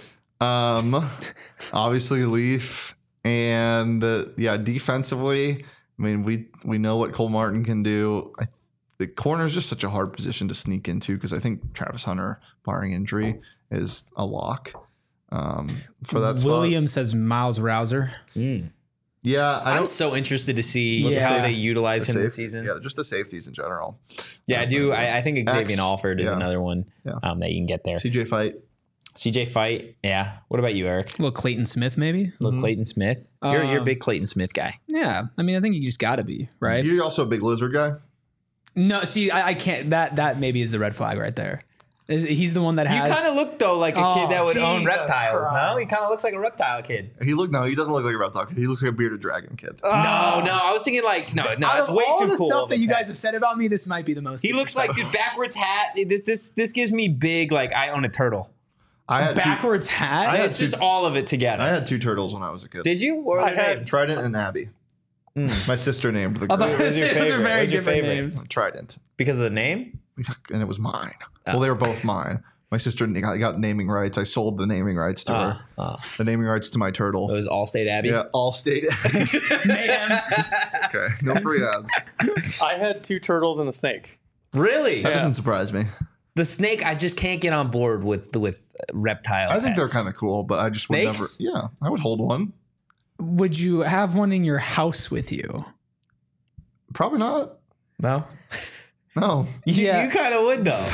Obviously Leaf and defensively. I mean, we know what Cole Martin can do. The corner is just such a hard position to sneak into because I think Travis Hunter, barring injury, is a lock for that spot. William says Miles Rouser. Yeah, I'm so interested to see how they utilize him this season. Yeah, just the safeties in general. Yeah, I do. I think Xavier Alford is another one that you can get there. CJ Fight. Yeah. What about you, Eric? A little Clayton Smith, maybe. Little Clayton Smith. You're a big Clayton Smith guy. Yeah, I mean, I think you just got to be, right? You're also a big lizard guy. No, see, I can't. That maybe is the red flag right there. He's the one that has. You kind of look though like a kid that would own Jesus reptiles. Christ. No, he kind of looks like a reptile kid. He doesn't look like a reptile kid. He looks like a bearded dragon kid. No, I was thinking like no, Out it's of way all too the cool. stuff that you guys have said about me, this might be the most. He looks like dude backwards hat. This gives me big like I own a turtle. I had backwards hat. It's just all of it together. I had two turtles when I was a kid. Did you? What were their names? Trident and Abby. My sister named the girl. was your Those favorite? are very What's your different favorite? names. Trident. Because of the name? And it was mine. Well, they were both mine. My sister got naming rights. I sold the naming rights to her. The naming rights to my turtle. It was Allstate Abbey. Yeah, Allstate. Man. Okay, no free ads. I had two turtles and a snake. Really? That doesn't surprise me. The snake, I just can't get on board with reptile. I think they're pets. kind of cool, but I just would never. Snakes? Yeah, I would hold one. Would you have one in your house with you? Probably not. No. No. You kind of would though.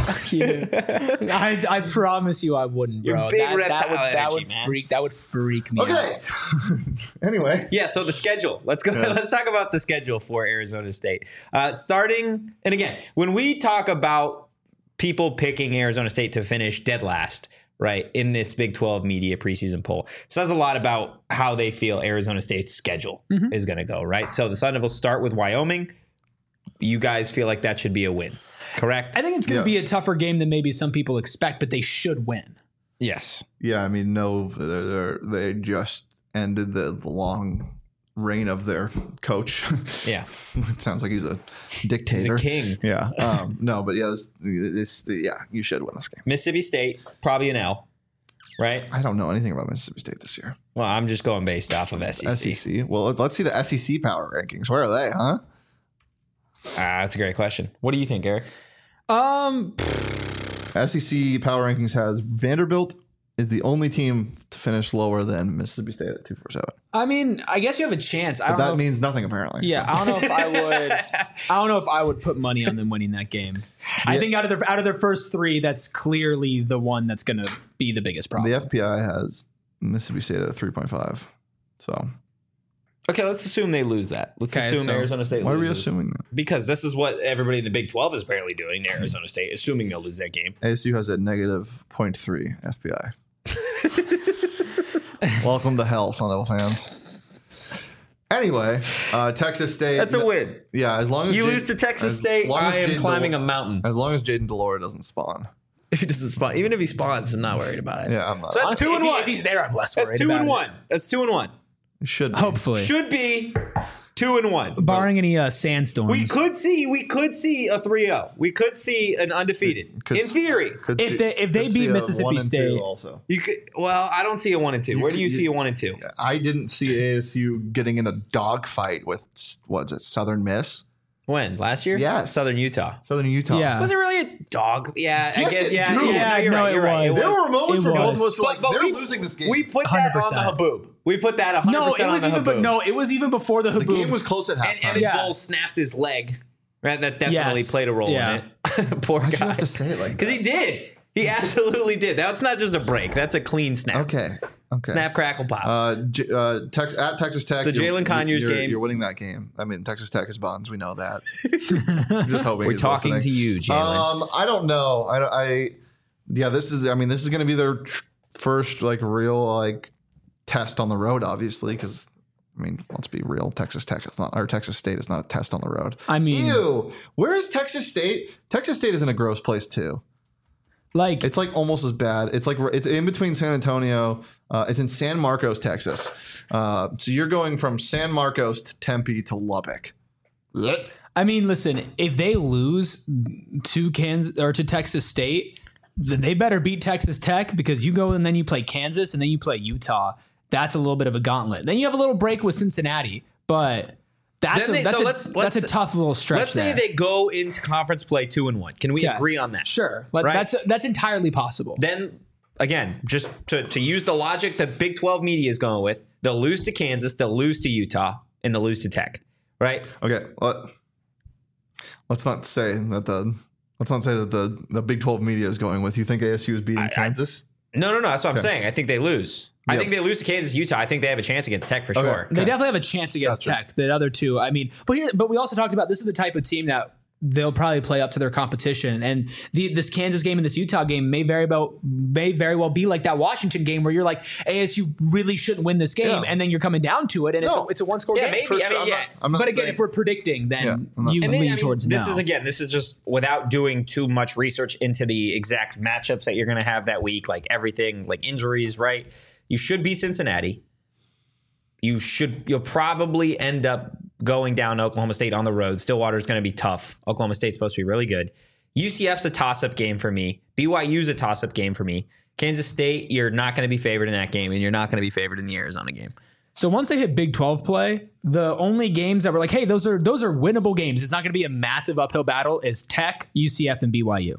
I promise you, I wouldn't, bro. You're big reptile that would energy, man. freak me out. Okay. Anyway. Yeah, so the schedule. Let's go. Yes. Let's talk about the schedule for Arizona State. Starting, and again, when we talk about people picking Arizona State to finish dead last, right, in this Big 12 media preseason poll, it says a lot about how they feel Arizona State's schedule is going to go, right? So the Sun Devils start with Wyoming. You guys feel like that should be a win, correct? I think it's going to be a tougher game than maybe some people expect, but they should win. Yes. Yeah, I mean, no, they just ended the long reign of their coach. Yeah. It sounds like he's a dictator. He's a king. Yeah. No, but yeah, you should win this game. Mississippi State, probably an L, right? I don't know anything about Mississippi State this year. Well, I'm just going based off of SEC. SEC. Well, let's see the SEC power rankings. Where are they, huh? That's a great question. What do you think, Eric? SEC power rankings has Vanderbilt is the only team to finish lower than Mississippi State at 247. I mean, I guess you have a chance. But that means nothing apparently. Yeah, so. I don't know if I would. I don't know if I would put money on them winning that game. I think out of their first three, that's clearly the one that's going to be the biggest problem. The FPI has Mississippi State at a 3.5. So Okay, let's assume they lose that. Let's assume Arizona State loses. why are we assuming that? Because this is what everybody in the Big 12 is apparently doing, Arizona State, assuming they'll lose that game. ASU has a negative 0.3 FPI. Welcome to hell, Sun Devil fans. Anyway, Texas State. That's a win. Yeah, as long as You lose to Texas State, I am climbing a mountain. As long as Jaden Delore doesn't spawn. If he doesn't spawn, even if he spawns, I'm not worried about it. Yeah, I'm not. So that's 2-1. If he's there, I'm less worried. That's 2-1. That's 2-1. It should be. Hopefully, Should be 2-1. barring any sandstorms. We could see a 3-0. We could see an undefeated. In theory. If they beat Mississippi State, also. You could. Well, I don't see a 1-2. Where do you see a 1-2? I didn't see ASU getting in a dogfight with Southern Miss. When? Last year? Yes. Southern Utah. Southern Utah. Yeah. Was it really a dog? Yeah. Yes, I guess. it Yeah. do. Yeah. No, you're right. You're right. It There were moments where both of was. us were like, But they're we- losing this game. We put that on the 100%. haboob. We put that 100% no, it was on the even. haboob. No, it was even before the the haboob. game was close at And halftime. Emmett Yeah. Bull snapped his leg. Right, that definitely Yes. played a role Yeah. in it. Poor Why'd guy. you have to say it like that? Because he did. He absolutely did. That's not just a break. That's a clean snap. Okay. Snap, crackle, pop. At Texas Tech, The Jalen Conyers game. You're winning that game. I mean, Texas Tech is buns. We know that. I'm just hoping We're he's talking listening. to you, Jalen. I don't know. This is going to be their first real test on the road, obviously, because let's be real. Texas State is not a test on the road. I mean, Ew. Where is Texas State? Texas State is in a gross place too. It's almost as bad. It's in between San Antonio. It's in San Marcos, Texas. So you're going from San Marcos to Tempe to Lubbock. Blech. I mean, listen, if they lose to Kansas or to Texas State, then they better beat Texas Tech, because you go and then you play Kansas and then you play Utah. That's a little bit of a gauntlet. Then you have a little break with Cincinnati, but that's a tough little stretch. Let's say they go into conference play 2-1. Can we agree on that? Sure, Right? that's entirely possible. Then again, just to use the logic that Big 12 media is going with, they'll lose to Kansas, they'll lose to Utah, and they'll lose to Tech. Right? Okay. Let's not say that the Big 12 media is going with. You think ASU is beating Kansas? No. That's what I'm saying. I think they lose. I Yep. think they lose to Kansas, Utah. I think they have a chance against Tech for sure. They definitely have a chance against Gotcha. Tech. The other two, but we also talked about this is the type of team that they'll probably play up to their competition. And this Kansas game and this Utah game may very well be like that Washington game where you're like, ASU really shouldn't win this game, Yeah. and then you're coming down to it, and it's a one-score Yeah, game. maybe. For I mean, sure. yeah. I'm not But again, saying- if we're predicting, then Yeah, I'm not you saying- lean towards this no. this is just without doing too much research into the exact matchups that you're going to have that week, like everything, like injuries, right? You should be Cincinnati. You'll probably end up going down to Oklahoma State on the road. Stillwater's going to be tough. Oklahoma State's supposed to be really good. UCF's a toss-up game for me. BYU's a toss-up game for me. Kansas State, you're not going to be favored in that game, and you're not going to be favored in the Arizona game. So once they hit Big 12 play, the only games that were like, hey, those are winnable games. It's not going to be a massive uphill battle. Is Tech, UCF, and BYU.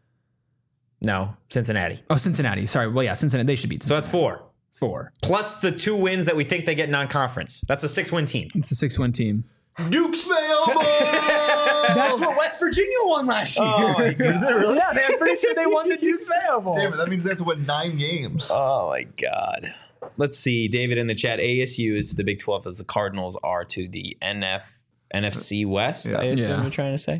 No, Cincinnati. Oh, Cincinnati. Sorry. Well, yeah, Cincinnati. They should beat So Cincinnati. that's 4. 4. Plus the 2 wins that we think they get non-conference. That's a 6-win team. It's a 6-win team. Duke's mail ball! That's what West Virginia won last year. Oh, my God. Did they really? Yeah, I'm pretty sure they won the Duke's Mayo Bowl. Damn it, that means they have to win 9 games. Oh, my God. Let's see. David in the chat. ASU is to the Big 12 as the Cardinals are to the NFC West, Yeah. I assume Yeah. you're trying to say.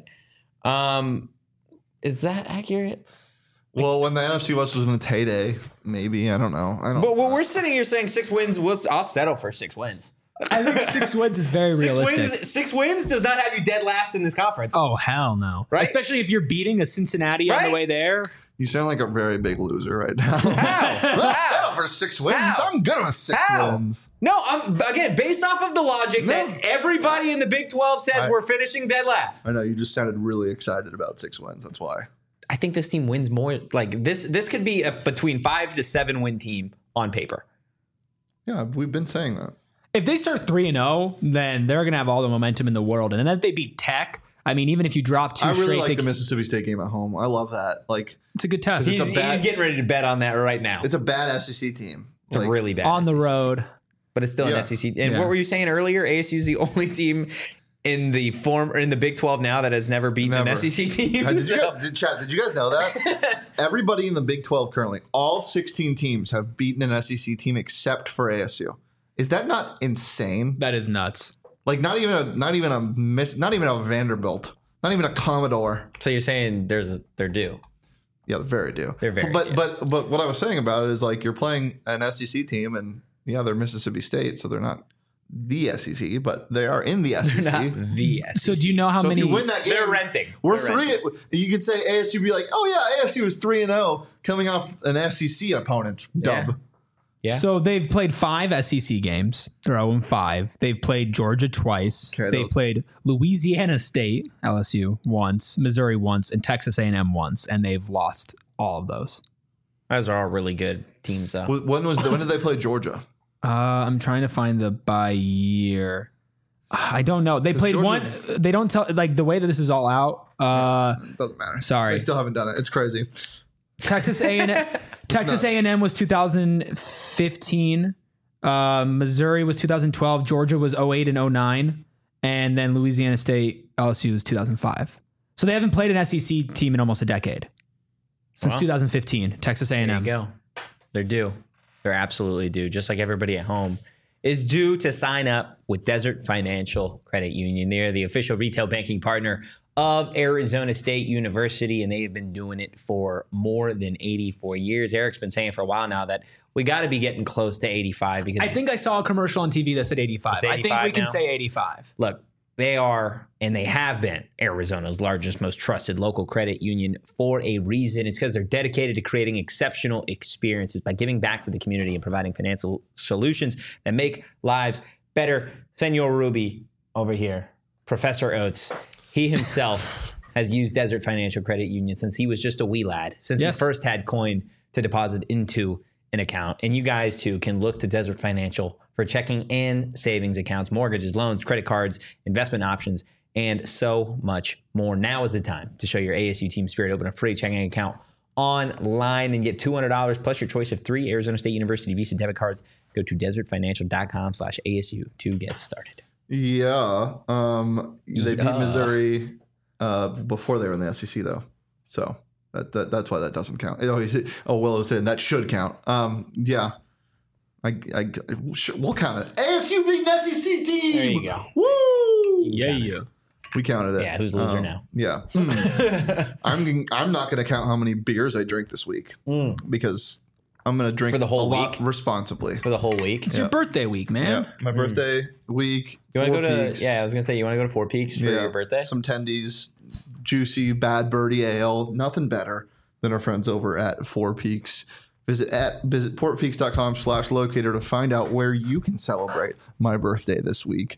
Is that accurate? Well, when the NFC West was in its heyday, maybe. I don't know. But we're sitting here saying 6 wins. I'll settle for 6 wins. I think 6 wins is very realistic. 6 wins does not have you dead last in this conference. Oh, hell no. Right? Especially if you're beating a Cincinnati on Right? the way there. You sound like a very big loser right now. How? Let's How? settle for 6 wins. How? I'm good with 6 How? wins. No, I'm again based off of the logic that everybody in the Big 12 says we're finishing dead last. I know you just sounded really excited about 6 wins. That's why. I think this team wins more. Like this could be a between 5 to 7 win team on paper. Yeah, we've been saying that. If they start 3-0, then they're going to have all the momentum in the world. And then if they beat Tech, I mean, even if you drop 2 I really straight, like the Mississippi State game at home. I love that. Like, it's a good test. It's He's getting ready to bet on that right now. it's a bad SEC team. It's a really bad on the SEC team. road. But it's still Yeah. an SEC. And Yeah. what were you saying earlier? ASU is the only team in the Big 12 now that has never beaten an Never. SEC team. Did So- did you guys know that? Everybody in the Big 12 currently, all 16 teams have beaten an SEC team except for ASU. Is that not insane? That is nuts. Like not even a Vanderbilt, not even a Commodore. So you're saying they're due. Yeah, they're very due. They're very but due. but what I was saying about it is like you're playing an SEC team and yeah, they're Mississippi State, so they're not the SEC, but they are in the SEC. The SEC. So do you know how So many? if you win that game, They're renting. We're They're three. renting. You could say ASU be like, oh yeah, ASU is 3-0 coming off an SEC opponent dub. Yeah. So they've played 5 SEC games. They're 0-5. They've played Georgia twice. Okay, They've played Louisiana State, LSU, once, Missouri once, and Texas A&M once, and they've lost all of those. Those are all really good teams, though. When did they play Georgia? I'm trying to find the bye year. I don't know. They played Georgia- one. They don't tell like the way that this is all out. Doesn't matter. Sorry. They still haven't done it. It's crazy. Texas A&M. Texas nuts. A&M was 2015. Missouri was 2012. Georgia was 08 and 09, and then Louisiana State, LSU was 2005. So they haven't played an SEC team in almost a decade since Wow. 2015. Texas A&M. There you go. They're due. They're absolutely due. Just like everybody at home is due to sign up with Desert Financial Credit Union. They're the official retail banking partner of Arizona State University, and they have been doing it for more than 84 years. Eric's been saying for a while now that we got to be getting close to 85 because I think I saw a commercial on TV that said 85. It's I think 85 we can now? say 85. look, they are, and they have been, Arizona's largest, most trusted local credit union for a reason. It's because they're dedicated to creating exceptional experiences by giving back to the community and providing financial solutions that make lives better. Senor Ruby over here, Professor Oates, he himself has used Desert Financial Credit Union since he was just a wee lad, since Yes. he first had coin to deposit into an account. And you guys too can look to Desert Financial for checking and savings accounts, mortgages, loans, credit cards, investment options, and so much more. Now is the time to show your ASU team spirit. Open a free checking account online and get $200 plus your choice of 3 Arizona State University Visa debit cards. Go to desertfinancial.com/ASU to get started. Yeah. They beat Yeah. Missouri before they were in the SEC though, so that's why that doesn't count. Willow said that should count. Yeah. We'll count it. ASU beat an SEC team. There you go. Woo! Yeah. We counted it. Yeah, who's loser now? Yeah. I'm not going to count how many beers I drink this week because I'm going to drink For the whole a lot week? responsibly. For the whole week. It's your birthday week, man. Yeah, my birthday week. You want to 4 go to? Peaks. Yeah, I was gonna say you want to go to Four Peaks for your birthday. Some tendies, juicy Bad Birdie Ale. Nothing better than our friends over at Four Peaks. Visit portpeaks.com/locator to find out where you can celebrate my birthday this week.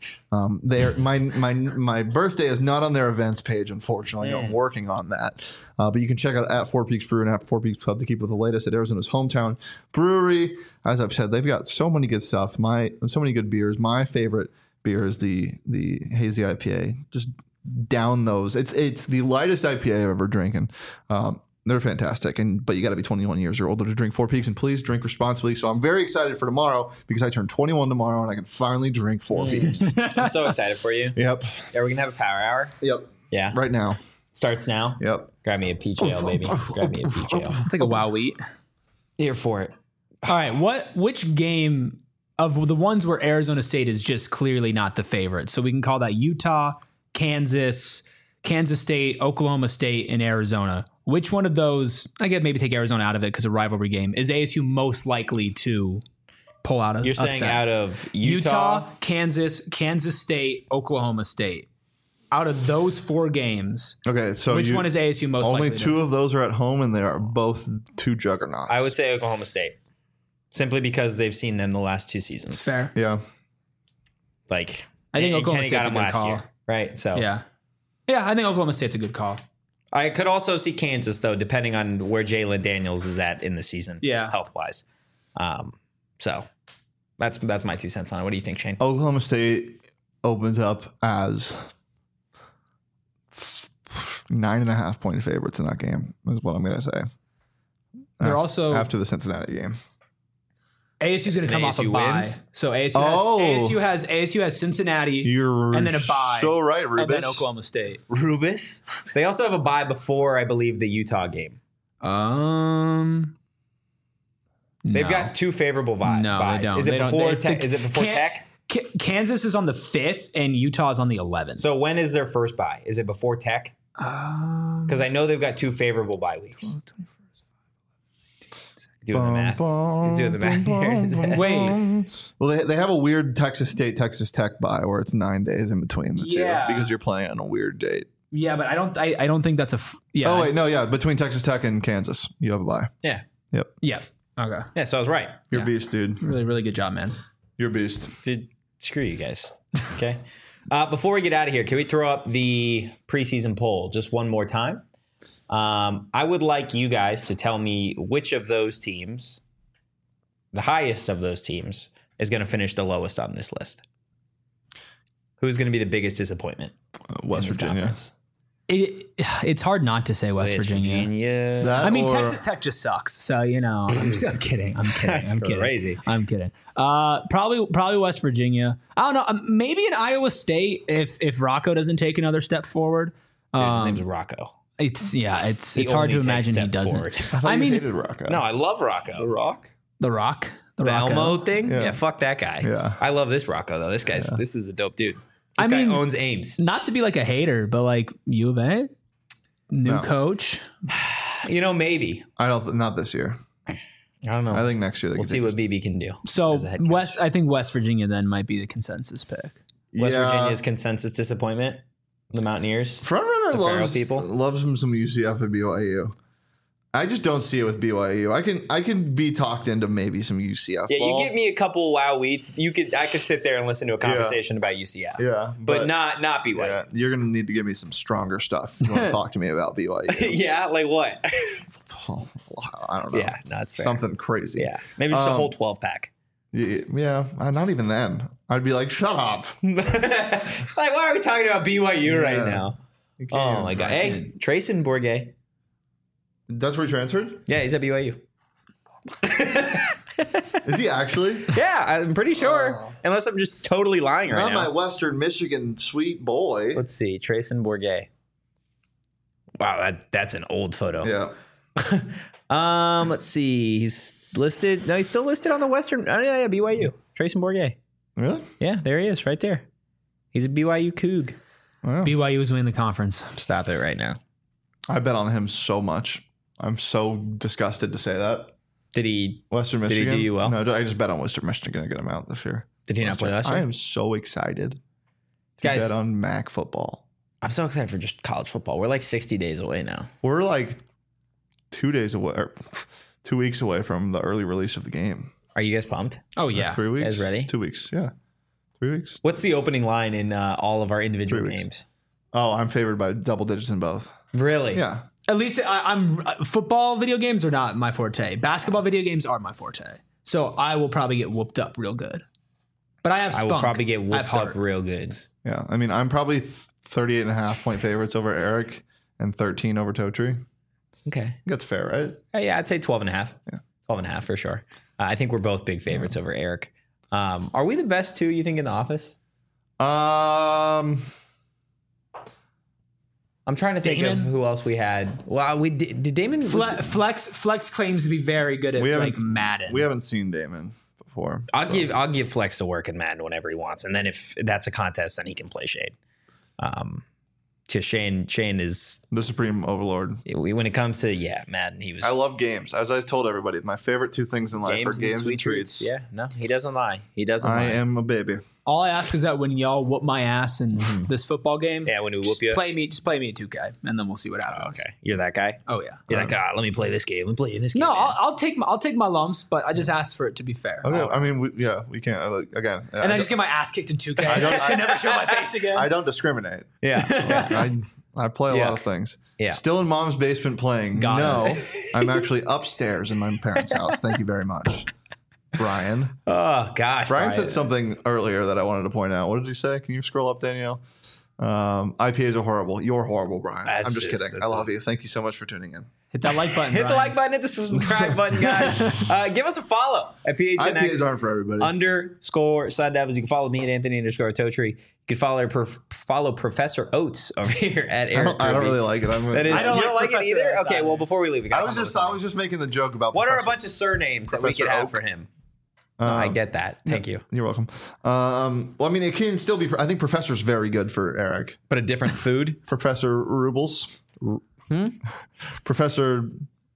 My birthday is not on their events page, unfortunately. I'm working on that. But you can check out at Four Peaks Brew and at Four Peaks Pub to keep with the latest at Arizona's hometown brewery. As I've said, they've got so many good stuff. So many good beers. My favorite beer is the hazy IPA. Just down those. It's the lightest IPA I've ever drinking. They're fantastic, but you got to be 21 years or older to drink Four Peaks, and please drink responsibly. So I'm very excited for tomorrow because I turn 21 tomorrow and I can finally drink Four Peaks. I'm so excited for you. Yep. Yeah, we're gonna have a power hour. Yep. Yeah, Right now. starts now. Yep. Grab me a peach ale, baby. Grab me a peach ale. It's like a wow wheat. Here for it. All right, which game of the ones where Arizona State is just clearly not the favorite? So we can call that Utah, Kansas State, Oklahoma State, and Arizona. Which one of those, I get maybe take Arizona out of it because a rivalry game, is ASU most likely to pull out of You're saying out of Utah? Kansas State, Oklahoma State. Out of those 4 games, Okay, so which one is ASU most only likely 2 of those are at home, and they are both 2 juggernauts. I would say Oklahoma State, simply because they've seen them the last 2 seasons. Fair. Yeah. Like I think and Oklahoma Kenny State's got a them good last call. year, right? So Yeah, I think Oklahoma State's a good call. I could also see Kansas though, depending on where Jalen Daniels is at in the season, Yeah. health wise. So that's my 2 cents on it. What do you think, Shane? Oklahoma State opens up as 9.5 point favorites in that game, is what I'm going to say. They're also after the Cincinnati game. ASU's going to come off a ASU bye. wins? So Oh. ASU has Cincinnati You're and then a bye. so right, Rubis. and then Oklahoma State. Rubis. They also have a bye before, I believe, the Utah game. They've No. got 2 favorable buys. No, they don't. Is it They don't. before They- Tech? Is it before Can- Tech? Kansas is on the 5th and Utah is on the 11th. So when is their first bye? Is it before Tech? Because I know they've got 2 favorable bye weeks. Doing the math. He's doing the math here. Wait. Well, they have a weird Texas State, Texas Tech bye where it's 9 days in between the Yeah. two because you're playing on a weird date. Yeah, but I don't think that's yeah. Oh, wait. No, yeah. Between Texas Tech and Kansas, you have a bye. Yeah. Yep. Yeah. Okay. Yeah, so I was right. You're a Yeah. beast, dude. Really, really good job, man. You're a beast. Dude, screw you guys. Okay. Before we get out of here, can we throw up the preseason poll just one more time? I would like you guys to tell me which of those teams, the highest of those teams, is going to finish the lowest on this list. Who's going to be the biggest disappointment? West in this Virginia. conference? It's hard not to say West Virginia. That I mean, or- Texas Tech just sucks. So I'm kidding. That's I'm kidding. crazy. I'm kidding. Probably West Virginia. I don't know. Maybe in Iowa State if Rocco doesn't take another step forward. Dude, his name's Rocco. It's He hard to only imagine takes he step doesn't. forward. I thought I you mean- hated Rocco. No, I love Rocco. The Rock? The Rock. The Rocco. Elmo thing? Yeah. Yeah, fuck that guy. Yeah. I love this Rocco, though. This is a dope dude. This I guy mean- owns Ames. Not to be like a hater, but like U of A, new No. coach. Maybe. I don't. Not this year. I don't know. I think next year they we'll can see take what us- BB can do. So as a head coach. I think West Virginia then might be the consensus pick. West Yeah. Virginia's consensus disappointment. The Mountaineers. Frontrunner The Pharaoh loves people. loves him some UCF and BYU. I just don't see it with BYU. I can be talked into maybe some UCF. Yeah, ball. you give me a couple wow weeks. I could sit there and listen to a conversation about UCF. Yeah, But not BYU. Yeah, you're gonna need to give me some stronger stuff. If you want to talk to me about BYU? Yeah, like what? I don't know. Yeah, no, it's fair. Something crazy. Yeah, maybe just a whole 12 pack. Yeah, not even then. I'd be like, shut up. Like, why are we talking about BYU right Yeah. now? You can't Oh my even- god! Hey, Trayson Bourget. That's where he transferred? Yeah, he's at BYU. Is he actually? Yeah, I'm pretty sure. Oh. Unless I'm just totally lying right Not now. my Western Michigan sweet boy. Let's see, Trayson Bourget. Wow, that's an old photo. Yeah. Let's see. He's listed. No, he's still listed on the Western. Oh yeah, BYU. Trayson Bourget. Really? Yeah, there he is, right there. He's a BYU Coug. Wow. BYU is winning the conference. Stop it right now. I bet on him so much. I'm so disgusted to say that. Did he? Western Did he Michigan. do you well? No, I just bet on Western Michigan to get him out this year. Did he not play last year? I am so excited to Guys- bet on MAC football. I'm so excited for just college football. We're like 60 days away now. We're like 2 days away, or 2 weeks away from the early release of the game. Are you guys pumped? Oh Or yeah. 3 weeks. Guys ready? 2 weeks. Yeah. 3 weeks. What's the opening line in all of our individual 3 weeks. games? Oh, I'm favored by double digits in both. Really? Yeah. At least I'm football video games are not my forte. Basketball video games are my forte. So I will probably get whooped up real good. But I have I spunk. will probably get I have whooped heart. up real good. Yeah. I mean, I'm probably 38 and a half point favorites over Eric and 13 over Totri. Okay. That's fair, right? Yeah, I'd say 12 and a half. Yeah. 12 and a half for sure. I think we're both big favorites over Eric. Are we the best two, you think, in the office? I'm trying to think Damon? of who else we had. Well, we did Damon Flex claims to be very good at We like haven't- Madden. We haven't seen Damon before. I'll so- give Flex to work in Madden whenever he wants, and then if that's a contest, then he can play Shane. Because Shane is the Supreme Overlord. when it comes to Madden, he was I love games. As I told everybody, my favorite two things in life are games and treats. Yeah, no, he doesn't lie. He doesn't I lie. am a baby. All I ask is that when y'all whoop my ass in this football game, Yeah, when we just whoop you. play me at 2K, and then we'll see what happens. Okay, you're that guy. Oh yeah. You're like, let me play this game. Let me play this game. No, man." I'll take my lumps, but I just ask for it to be fair. Okay, I mean, we can't. Again, And I just get my ass kicked in 2K. I don't- just can never show my face again. I don't discriminate. yeah. I play a Yeah. lot of things. Yeah. Still in mom's basement playing. Got no, it. I'm actually upstairs in my parents' house. Thank you very much, Brian. Oh gosh, Brian said something earlier that I wanted to point out. What did he say? Can you scroll up, Danielle? IPAs are horrible. You're horrible, Brian. That's I'm just just- kidding. that's I love you. Thank you so much for tuning in. Hit that like button. Hit the Brian. like button, hit the subscribe button, guys. Give us a follow at IPAs PHNX aren't for everybody. _ Sun Devils. You can follow me at Anthony _ Totri. You can follow Professor Oates over here at Eric. I don't Ruby. really like it. That is, I don't you don't like like it Professor either? Oates Okay, either. well, before we leave, we gotta I was come up with just making the joke about. what are a Professor- bunch of surnames that we Professor could have Oak? for him? I get that. Thank you. You're welcome. Well, I mean, it can still be. I think Professor's very good for Eric. But a different food? Professor Rubles. Professor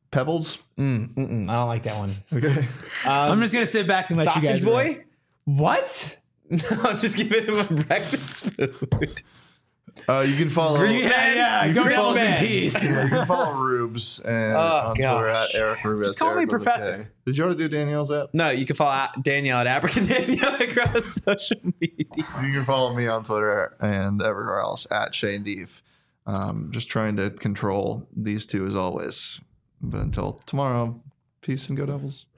Pebbles. I don't like that one. Okay. I'm just gonna sit back and let you guys. Sausage Boy? What? I'm just giving him a breakfast food. You can follow. Yeah. You Go can follow rest in man. peace. Yeah, you can follow Rubes and on Twitter gosh. at Eric Rubes. Just call me Eric with a Professor. K. Did you already do Danielle's app? No, you can follow Danielle at Abracadanielle across social media. You can follow me on Twitter and everywhere else at Shane Deef. Just trying to control these two as always. But until tomorrow, peace and go Devils.